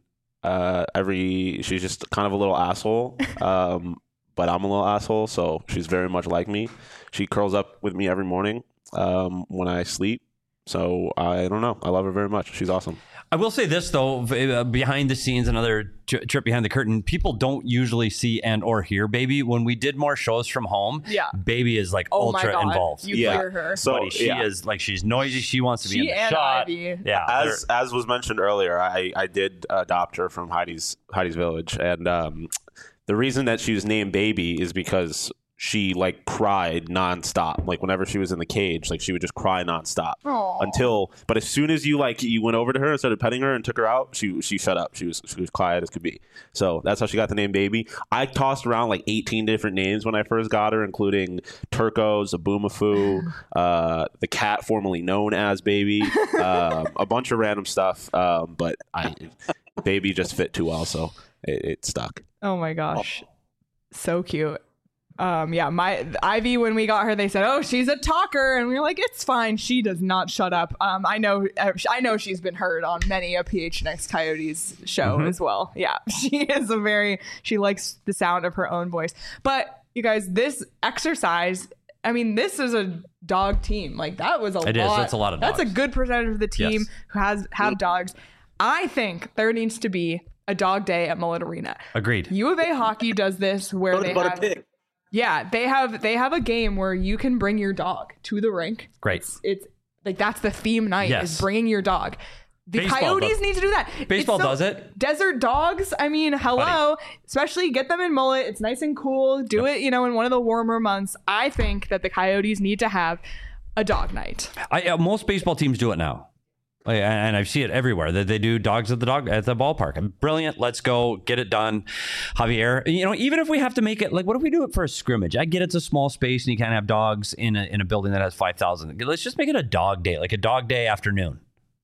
Uh, every she's just kind of a little asshole, um, but I'm a little asshole, so she's very much like me. She curls up with me every morning um, when I sleep. So I don't know. I love her very much. She's awesome. I will say this, though, uh, behind the scenes, another tri- trip behind the curtain, people don't usually see and or hear Baby. When we did more shows from home, Yeah. Baby is like Oh my ultra God. involved. You Yeah. hear her. So Buddy, she yeah. is like, she's noisy. She wants to be She in the and shot. Ivy. Yeah. As as was mentioned earlier, I, I did adopt her from Heidi's Heidi's Village, and um, the reason that she was named Baby is because she like cried nonstop. Like whenever she was in the cage, like she would just cry nonstop Aw. until. But as soon as you like you went over to her and started petting her and took her out, she she shut up. She was she was quiet as could be. So that's how she got the name Baby. I tossed around like eighteen different names when I first got her, including Turco, Zaboomafoo, uh, the cat formerly known as Baby, uh, a bunch of random stuff. Um, but I Baby just fit too well, so it, it stuck. Oh my gosh. So cute. Um, yeah, my Ivy, when we got her, they said, "Oh, she's a talker," and we were like, "It's fine. She does not shut up." Um, I know, I know she's been heard on many a P H N X Coyotes show Mm-hmm. as well. Yeah, she is a very, she likes the sound of her own voice. But you guys, this exercise, I mean, this is a dog team. Like that was a It is. lot. That's a lot of That's a dogs. good percentage of the team Yes. who has have dogs. I think there needs to be a dog day at Mullet Arena. Agreed. U of A hockey does this where Go they to Butter have. Pig. Yeah, they have they have a game where you can bring your dog to the rink. Great. It's, it's like that's the theme night Yes. is bringing your dog. The Baseball Coyotes does- need to do that. Baseball It's so- does it. Desert dogs. I mean, hello. Especially get them in Mullet. It's nice and cool. Do it, you know, in one of the warmer months. I think that the Coyotes need to have a dog night. I, uh, most baseball teams do it now. Like, and I see it everywhere that they do dogs at the dog at the ballpark. Brilliant. Let's go get it done. Javier, you know, even if we have to make it like, what if we do it for a scrimmage? I get it's a small space and you can't have dogs in a, in a building that has five thousand. Let's just make it a dog day, like a dog day afternoon.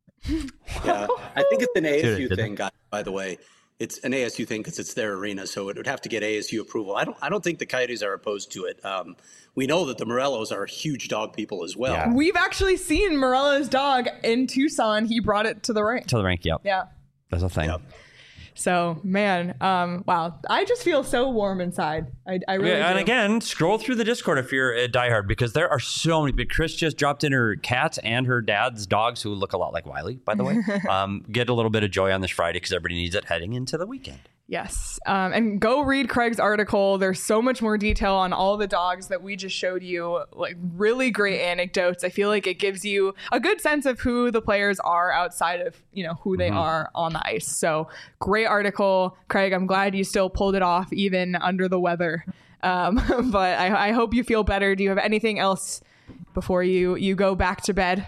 Yeah, I think it's an A S U Dude, thing, guys. By the way, it's an A S U thing because it's their arena, so it would have to get A S U approval. I don't. I don't think the Coyotes are opposed to it. Um, we know that the Morellos are huge dog people as well. Yeah. We've actually seen Morello's dog in Tucson. He brought it to the rink. To the rink, yep. Yeah. That's a thing. Yep. So, man, um, wow. I just feel so warm inside. I, I really Yeah, and do. again, scroll through the Discord if you're a diehard because there are so many. But Chris just dropped in her cats and her dad's dogs, who look a lot like Wiley, by the way. um, get a little bit of joy on this Friday because everybody needs it heading into the weekend. Yes. Um, and go read Craig's article. There's so much more detail on all the dogs that we just showed you. Like really great anecdotes. I feel like it gives you a good sense of who the players are outside of, you know, who they Mm-hmm. are on the ice. So great article. Craig, I'm glad you still pulled it off even under the weather. Um, but I, I hope you feel better. Do you have anything else before you, you go back to bed?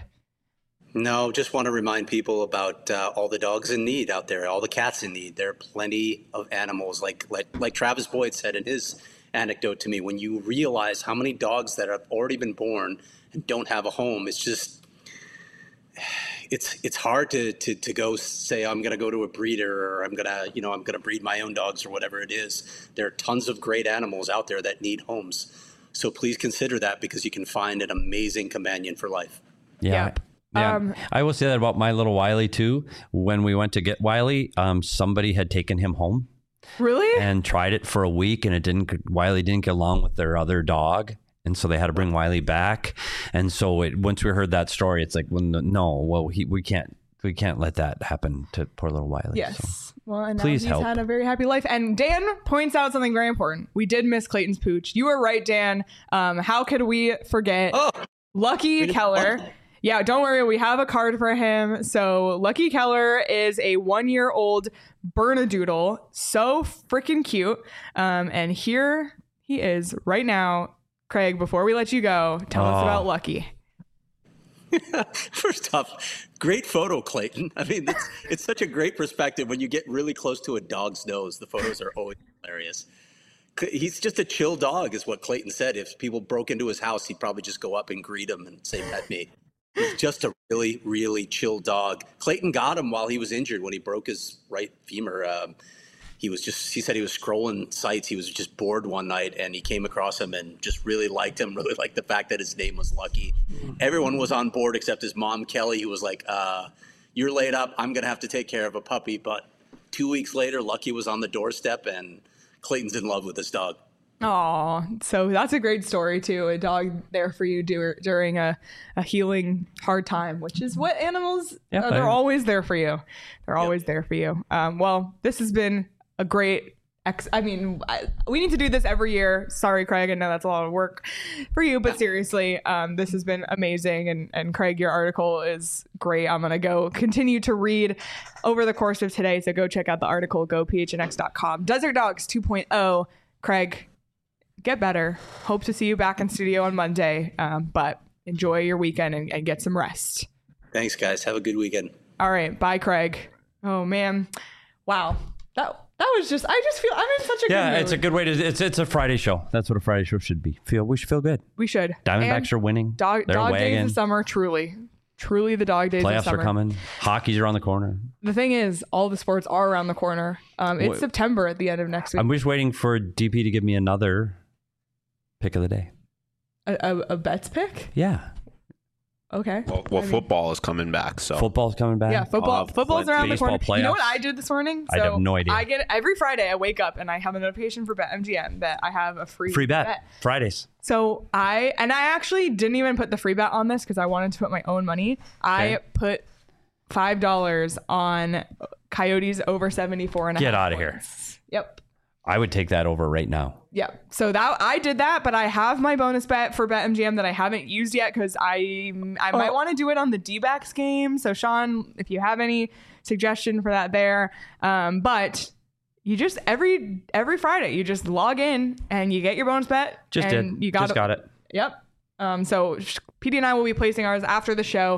No, just want to remind people about uh, all the dogs in need out there, all the cats in need. There are plenty of animals, like like like Travis Boyd said in his anecdote to me. When you realize how many dogs that have already been born and don't have a home, it's just it's it's hard to to to go say I'm going to go to a breeder or I'm going to you know I'm going to breed my own dogs or whatever it is. There are tons of great animals out there that need homes, so please consider that because you can find an amazing companion for life. Yeah. Yep. Yeah. Um, I will say that about my little Wiley too. When we went to get Wiley, um, somebody had taken him home Really? and tried it for a week, and it didn't. Wiley didn't get along with their other dog, and so they had to bring Wiley back. And so it, once we heard that story, it's like, well, no, well, he, we can't, we can't let that happen to poor little Wiley. Yes. So. Well, and now Please he's help. had a very happy life. And Dan points out something very important. We did miss Clayton's pooch. You were right, Dan. Um, how could we forget Oh, Lucky didn't Keller? want that. Yeah, don't worry. We have a card for him. So Lucky Keller is a one-year-old Bernedoodle. So freaking cute. Um, and here he is right now. Craig, before we let you go, tell us Oh. about Lucky. First off, great photo, Clayton. I mean, it's, it's such a great perspective when you get really close to a dog's nose. The photos are always hilarious. He's just a chill dog, is what Clayton said. If people broke into his house, he'd probably just go up and greet him and say, "Pet me." He's just a really, really chill dog. Clayton got him while he was injured when he broke his right femur. Um, he was just, he said he was scrolling sites. He was just bored one night and he came across him and just really liked him, really liked the fact that his name was Lucky. Everyone was on board except his mom, Kelly, who was like, uh, "You're laid up. I'm going to have to take care of a puppy, but two weeks later, Lucky was on the doorstep, and Clayton's in love with this dog. Oh, so that's a great story too. A dog there for you dur- during a, a healing hard time, which is what animals, Yeah, uh, they're I- always there for you. They're always there for you. Um, well, this has been a great ex- I mean, I, we need to do this every year. Sorry, Craig. I know that's a lot of work for you, but seriously, um, this has been amazing. And, and Craig, your article is great. I'm going to go continue to read over the course of today. So go check out the article, go P H N X dot com. Desert Dogs two point oh. Craig, get better. Hope to see you back in studio on Monday, um, but enjoy your weekend and, and get some rest. Thanks, guys. Have a good weekend. All right. Bye, Craig. Oh, man. Wow. That that was just, I just feel, I'm in such a Yeah, good mood. it's a good way to. It's it's a Friday show. That's what a Friday show should be. Feel we should feel good. We should. Diamondbacks And are winning. Dog, They're dog days wagging. of summer, truly. Truly the dog days of Playoffs summer. are coming. Hockey's around the corner. The thing is, all the sports are around the corner. Um, it's What- September at the end of next week. I'm just waiting for D P to give me another pick of the day. A, a, a bets pick? Yeah, Okay. Well, well I mean- football is coming back, so football's coming back. Yeah, football. Uh, Football's plenty- around the baseball corner. You know what playoffs. I did this morning? I have no idea. I get every Friday. I wake up and I have a notification for BetMGM that I have a free Free bet. Fridays. So I and I actually didn't even put the free bet on this because I wanted to put my own money. I Okay. put five dollars on Coyotes over seventy-four and a half. Get outta here. points. Yep. I would take that over right now. Yep. So that I did that, but I have my bonus bet for BetMGM that I haven't used yet because I I might Oh. want to do it on the D-backs game. So Sean, if you have any suggestion for that there, um, but you just every every Friday you just log in and you get your bonus bet. Just and did. You got Just got it. Yep. Um, so P D and I will be placing ours after the show.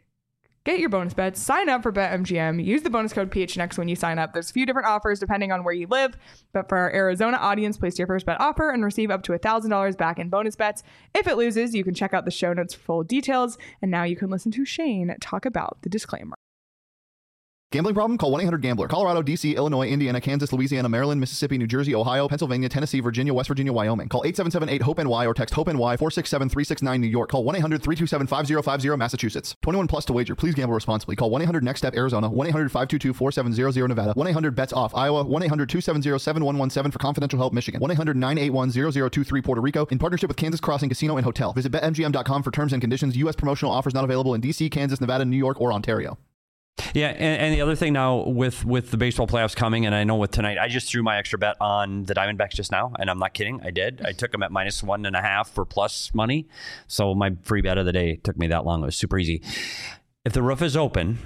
Get your bonus bets, sign up for BetMGM, use the bonus code P H N X when you sign up. There's a few different offers depending on where you live, but for our Arizona audience, place your first bet offer and receive up to one thousand dollars back in bonus bets. If it loses, you can check out the show notes for full details. And now you can listen to Shane talk about the disclaimer. Gambling problem? Call one eight hundred gambler. Colorado, D C, Illinois, Indiana, Kansas, Louisiana, Maryland, Mississippi, New Jersey, Ohio, Pennsylvania, Tennessee, Virginia, West Virginia, Wyoming. Call eight seven seven eight hope N Y or text HOPE-NY four six seven three six nine New York. Call one eight hundred three two seven five zero five zero Massachusetts. twenty-one plus to wager. Please gamble responsibly. Call one eight hundred next step Arizona. one eight hundred five two two four seven zero zero Nevada. one eight hundred bets off Iowa. one eight hundred two seven zero seven one one seven for confidential help Michigan. one eight hundred nine eight one zero zero two three Puerto Rico. In partnership with Kansas Crossing Casino and Hotel. Visit bet M G M dot com for terms and conditions. U S promotional offers not available in D C, Kansas, Nevada, New York, or Ontario. Yeah, and, and the other thing now with with the baseball playoffs coming, and I know with tonight, I just threw my extra bet on the Diamondbacks just now, and I'm not kidding, I did. I took them at minus one and a half for plus money, so my free bet of the day took me that long. It was super easy. If the roof is open,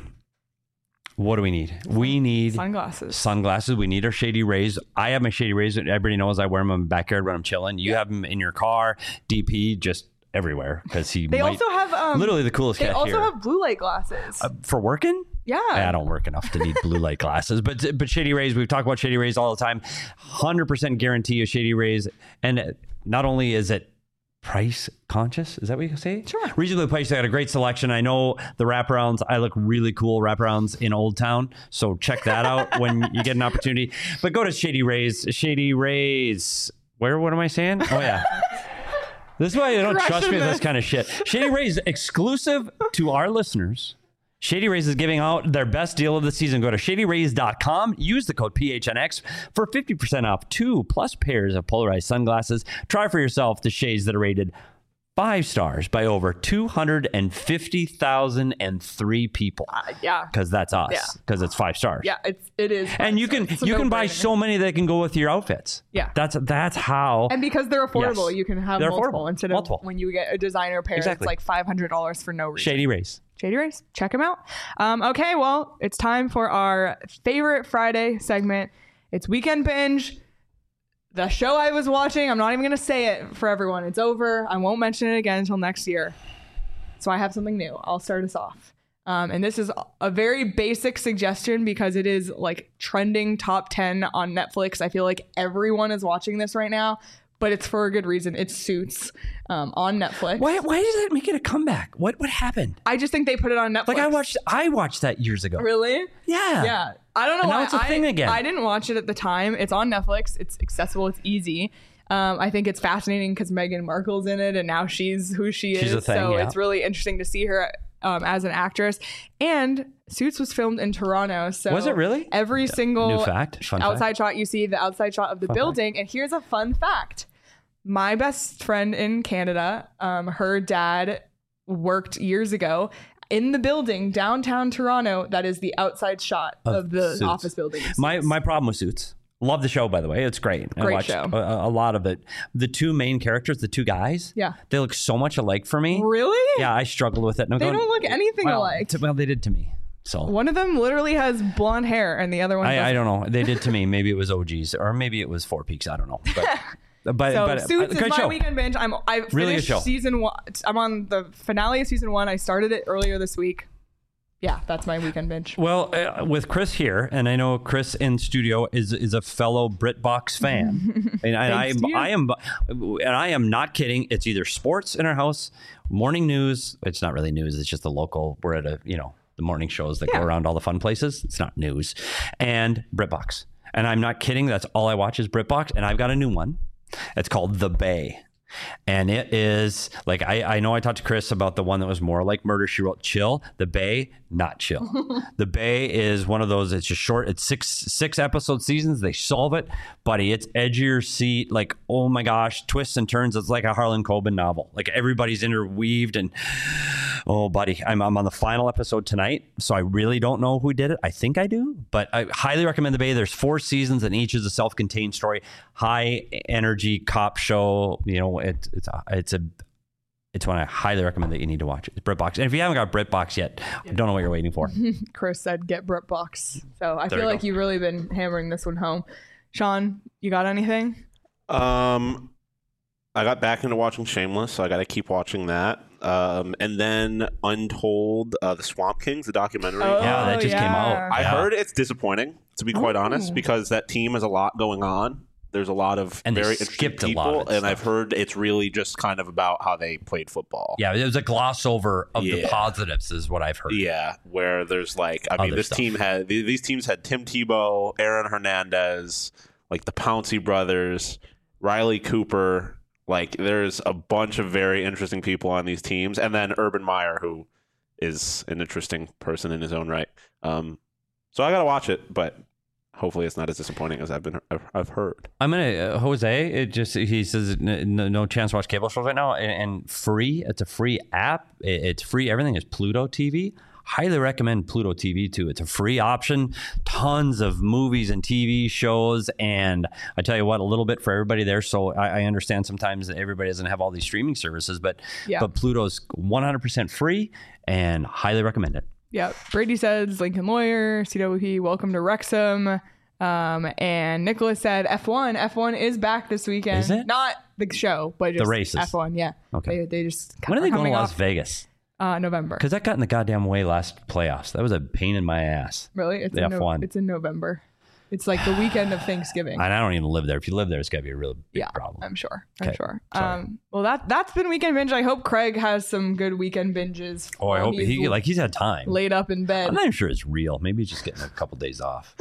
what do we need? We need Sunglasses. sunglasses. We need our Shady Rays. I have my Shady Rays. Everybody knows I wear them in my backyard when I'm chilling. You have them in your car. D P just everywhere because he They might, also have um, literally the coolest They cat also here. have blue light glasses. Uh, for working? yeah. I don't work enough to need blue light glasses, but but Shady Rays, we've talked about Shady Rays all the time. one hundred percent guarantee of Shady Rays, and not only is it price conscious, is that what you say? Sure. Reasonably priced. They got a great selection. I know the wraparounds. I look really cool wraparounds in Old Town, so check that out when you get an opportunity. But go to Shady Rays. Shady Rays. Where? What am I saying? Oh yeah. This is why you don't trust Crushing me with this. this kind of shit. Shady Rays exclusive to our listeners. Shady Rays is giving out their best deal of the season. Go to shady rays dot com. Use the code P H N X for fifty percent off two plus pairs of polarized sunglasses. Try for yourself the shades that are rated five stars by over two hundred fifty thousand three people. Uh, yeah. Because that's us. Yeah. Because it's five stars. Yeah, it's it is. And you can It's a you can buy no-brainer. so many that can go with your outfits. Yeah. That's that's how. And because they're affordable, Yes. you can have They're multiple affordable. instead of Multiple. when you get a designer pair, Exactly. it's like five hundred dollars for no reason. Shady Rays. Shady Rays, check them out. Um, okay, well, it's time for our favorite Friday segment. It's Weekend Binge. The show I was watching, I'm not even going to say it for everyone. It's over. I won't mention it again until next year. So I have something new. I'll start us off. Um, and this is a very basic suggestion because it is like trending top ten on Netflix. I feel like everyone is watching this right now, but it's for a good reason. It's Suits um, on Netflix. Why why does that make it a comeback? What what happened? I just think they put it on Netflix. Like I watched I watched that years ago. Really? Yeah. Yeah. I don't know And now why. it's a I, thing again. I didn't watch it at the time. It's on Netflix. It's accessible. It's easy. Um, I think it's fascinating because Meghan Markle's in it and now she's who she She's is. a thing, so yeah. it's really interesting to see her um, as an actress. And Suits was filmed in Toronto. So Was it really? Every single New fact. Fun outside fact. shot you see, the outside shot of the Fun building. And here's a fun fact. My best friend in Canada, um, her dad worked years ago in the building downtown Toronto. That is the outside shot of, Of the Suits. office building. in My Suits. my problem with Suits. Love the show, by the way. It's great. I Great watched show. A, a lot of it. The two main characters, the two guys, Yeah. they look so much alike for me. Really? Yeah, I struggled with it. And I'm They going, don't look anything well, alike. to- well, they did to me. So One of them literally has blonde hair, and the other one. I, I doesn't. don't know. They did to me. Maybe it was O Gs or maybe it was Four Peaks. I don't know. But but, So but Suits uh, is great my show. weekend binge. I'm I finished Really good show. season one. I'm on the finale of season one. I started it earlier this week. Yeah, that's my weekend binge. Well, uh, with Chris here, and I know Chris in studio is is a fellow BritBox fan, and, and I Thanks am to you. I am and I am not kidding. It's either sports in our house, morning news. It's not really news. It's just the local. We're at a you know the morning shows that Yeah. go around all the fun places. It's not news, and BritBox. And I'm not kidding. That's all I watch is BritBox, and I've got a new one. It's called The Bay. And it is like I, I know I talked to Chris about the one that was more like Murder She Wrote, chill. The Bay, not chill. The Bay is one of those. It's just short. It's six six episode seasons. They solve it, buddy. It's edge of your seat. Like oh my gosh, twists and turns. It's like a Harlan Coben novel. Like everybody's interweaved and oh buddy, I'm I'm on the final episode tonight, so I really don't know who did it. I think I do, but I highly recommend The Bay. There's four seasons, and each is a self-contained story. High energy cop show. You know. It, it's a, it's a it's one I highly recommend that you need to watch. It's BritBox, and if you haven't got BritBox yet, I don't know what you're waiting for. Chris said get BritBox. So I There feel you like go. you've really been hammering this one home. Sean, you got anything? Um, I got back into watching Shameless, so I got to keep watching that. Um, and then Untold, uh, the Swamp Kings, the documentary. Oh, Yeah, that just came yeah. out. I Yeah. heard it's disappointing, to be quite Ooh. honest, because that team has a lot going on. There's a lot of And they very interesting skipped a people, lot of and stuff. I've heard it's really just kind of about how they played football. Yeah, it was a gloss over of the Yeah. positives, is what I've heard. Yeah, where there's like, I mean, Other this stuff. team had th- these teams had Tim Tebow, Aaron Hernandez, like the Pouncey brothers, Riley Cooper. Like, there's a bunch of very interesting people on these teams, and then Urban Meyer, who is an interesting person in his own right. Um, so I gotta watch it, but hopefully it's not as disappointing as I've been I've, I've heard. I'm gonna uh, Jose. It just he says n- no, no chance to watch cable shows right now, and, and free. It's a free app. It, it's free. Everything is Pluto T V. Highly recommend Pluto T V too. It's a free option. Tons of movies and T V shows, and I tell you what, a little bit for everybody there. So I, I understand sometimes that everybody doesn't have all these streaming services, but Yeah. but Pluto's one hundred percent free, and highly recommend it. Yeah. Brady says Lincoln Lawyer, C W P, welcome to Wrexham. Um, and Nicholas said F one. F one is back this weekend. Is it? Not the show, but just The races. F one. Yeah. Okay. They, they just When are they going to coming Las off, Vegas? Uh, November. Because that got in the goddamn way last playoffs. That was a pain in my ass. Really? It's the in F no- one. It's in November. It's like the weekend of Thanksgiving. And I don't even live there. If you live there, it's got to be a real big yeah, problem. I'm sure. I'm Okay, sure. sorry. Um, well, that that's been weekend binge. I hope Craig has some good weekend binges. Oh, I while hope he's he like he's had time. laid up in bed. I'm not even sure it's real. Maybe he's just getting a couple days off.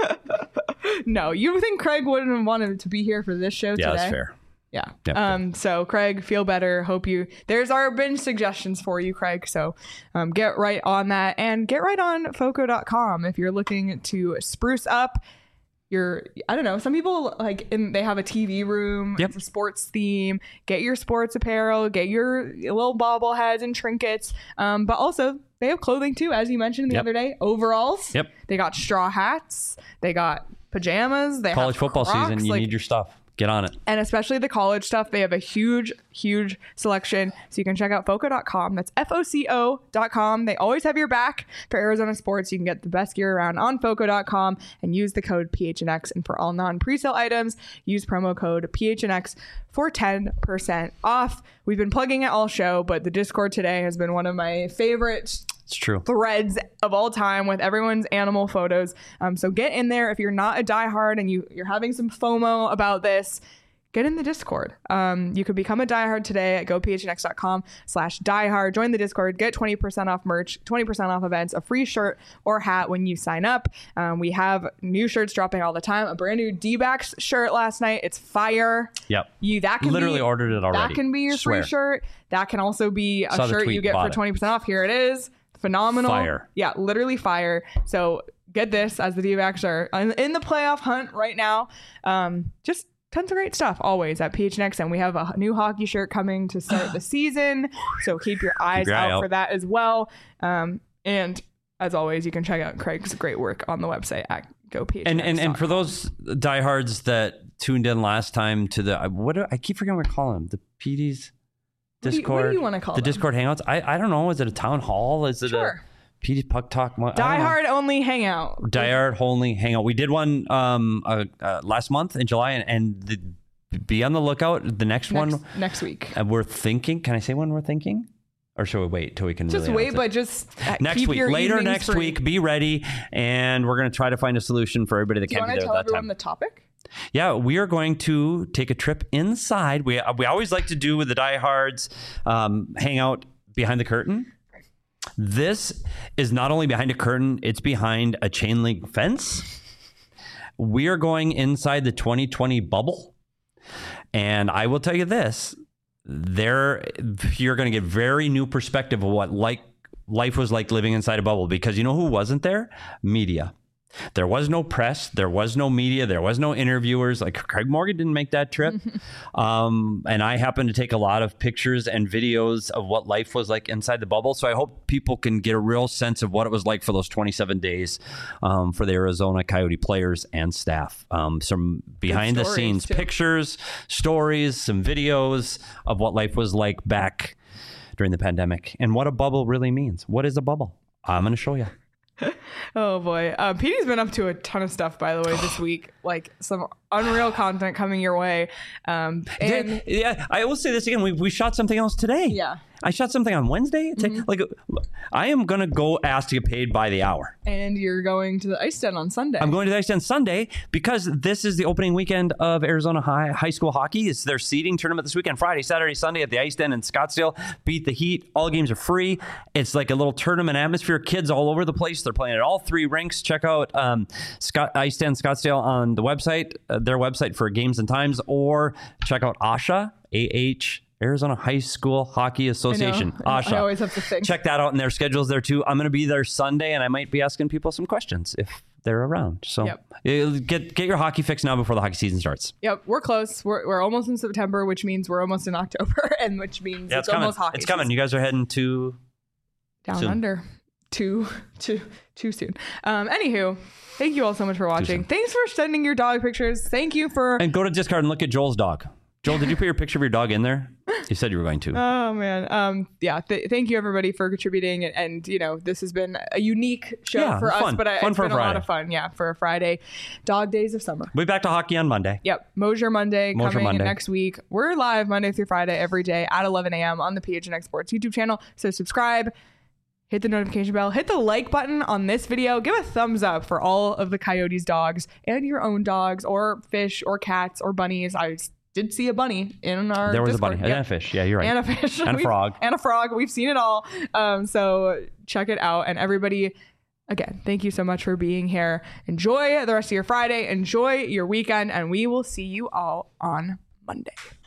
No, you think Craig wouldn't have wanted to be here for this show Yeah, today? that's fair. Yeah. Yep, um. So Craig, feel better. Hope you. There's our binge suggestions for you, Craig. So, um, get right on that and get right on Foco dot com if you're looking to spruce up your. I don't know. Some people like in they have a T V room. Yep. It's a sports theme. Get your sports apparel. Get your little bobbleheads and trinkets. Um. But also they have clothing too, as you mentioned the Yep. other day. Overalls. Yep. They got straw hats. They got pajamas. They College have football Crocs, season, you like, need your stuff. Get on it. and especially the college stuff. They have a huge, huge selection. So you can check out Foco dot com. That's F O C O dot com. They always have your back for Arizona sports. You can get the best gear around on Foco dot com and use the code P H N X. And for all non-presale items, use promo code P H N X for ten percent off. We've been plugging it all show, but the Discord today has been one of my favorite It's true. threads of all time with everyone's animal photos. Um, so get in there if you're not a diehard and you you're having some FOMO about this. Get in the Discord. Um, you could become a diehard today at go p h n x dot com slash diehard. Join the Discord. Get twenty percent off merch, twenty percent off events, a free shirt or hat when you sign up. Um, we have new shirts dropping all the time. A brand new D-backs shirt last night. It's fire. Yep. You that can Literally be, ordered it already. That can be your Swear. free shirt. That can also be a Saw the shirt tweet, you get bought for it. twenty percent off. Here it is. phenomenal. Fire. Yeah, literally fire. So get this, as the D-backs are in the playoff hunt right now. Um, just tons of great stuff always at P H N X, and we have a new hockey shirt coming to start the season. So keep your eyes your out, eye out for that as well. Um, and as always, you can check out Craig's great work on the website at go P H N X. And and and for those diehards that tuned in last time to the what do, I keep forgetting what I call them, the P Ds What do you- Discord. what do you wanna call the them? Discord hangouts? I I don't know. Is it a town hall? Is it Sure. a P D Puck Talk? I don't know. Die Hard only hangout. Die Hard only hangout. We did one um uh, uh, last month in July, and, and the, be on the lookout. The next, Next, one next week. uh, we're thinking. Can I say when we're thinking? Or should we wait till we can Just really wait, announce it? but just uh, next keep week, your later evenings next free. week, be ready, and we're going to try to find a solution for everybody that Do you can't want be to there tell at that everyone time. the topic? Yeah, we are going to take a trip inside. We we always like to do with the diehards um, hang out behind the curtain. This is not only behind a curtain; it's behind a chain link fence. We are going inside the twenty twenty bubble, and I will tell you this: there, you're going to get very new perspective of what like life was like living inside a bubble. Because you know who wasn't there? Media. There was no press. There was no media. There was no interviewers. Like Craig Morgan didn't make that trip. um, and I happened to take a lot of pictures and videos of what life was like inside the bubble. So I hope people can get a real sense of what it was like for those twenty-seven days um, for the Arizona Coyote players and staff. Um, some behind the stories, scenes too. pictures, stories, some videos of what life was like back during the pandemic and what a bubble really means. What is a bubble? I'm going to show you. Oh boy. Uh, P D's been up to a ton of stuff, by the way, this week. Like some unreal content coming your way. Um, and yeah, I will say this again. We, we shot something else today. Yeah. I shot something on Wednesday. Mm-hmm. Like, I am going to go ask to get paid by the hour. and you're going to the Ice Den on Sunday. I'm going to the Ice Den Sunday because this is the opening weekend of Arizona High High School Hockey. It's their seeding tournament this weekend, Friday, Saturday, Sunday at the Ice Den in Scottsdale. Beat the Heat. All games are free. It's like a little tournament atmosphere. Kids all over the place. They're playing at all three rinks. Check out um, Scott, Ice Den Scottsdale on the website, uh, their website for games and times, or check out A H A, A H, Arizona High School Hockey Association. I know. A H A. I always have to think. Check that out, and their schedule's there too. I'm going to be there Sunday, and I might be asking people some questions if they're around. So Yep. uh, get get your hockey fix now before the hockey season starts. Yep, we're close. We're, we're almost in September, which means we're almost in October, and which means Yeah, it's, it's coming. almost hockey. It's coming. season. You guys are heading to. Down soon. under. Too too too soon. Um, anywho, thank you all so much for watching. soon. Thanks for sending your dog pictures. Thank you for. And go to Discard and look at Joel's dog. Joel, did you put your picture of your dog in there? You said you were going to. Oh man. Um. Yeah. Th- thank you everybody for contributing, and, and you know this has been a unique show Yeah, for us, fun. but I, Fun it's for a been a lot Friday. of fun. Yeah, for a Friday, Dog Days of Summer. We'll be back to hockey on Monday. Yep. Mosier Monday Mosier coming Monday. next week. We're live Monday through Friday every day at eleven a.m. on the P H N X Sports YouTube channel. So subscribe, hit the notification bell, hit the like button on this video. Give a thumbs up for all of the Coyotes dogs and your own dogs or fish or cats or bunnies. I did see a bunny in our There was Discord. a bunny Yep. and a fish. Yeah, you're right. And a fish. And a We've- frog. And a frog. We've seen it all. Um, so check it out. And everybody, again, thank you so much for being here. Enjoy the rest of your Friday. Enjoy your weekend. And we will see you all on Monday.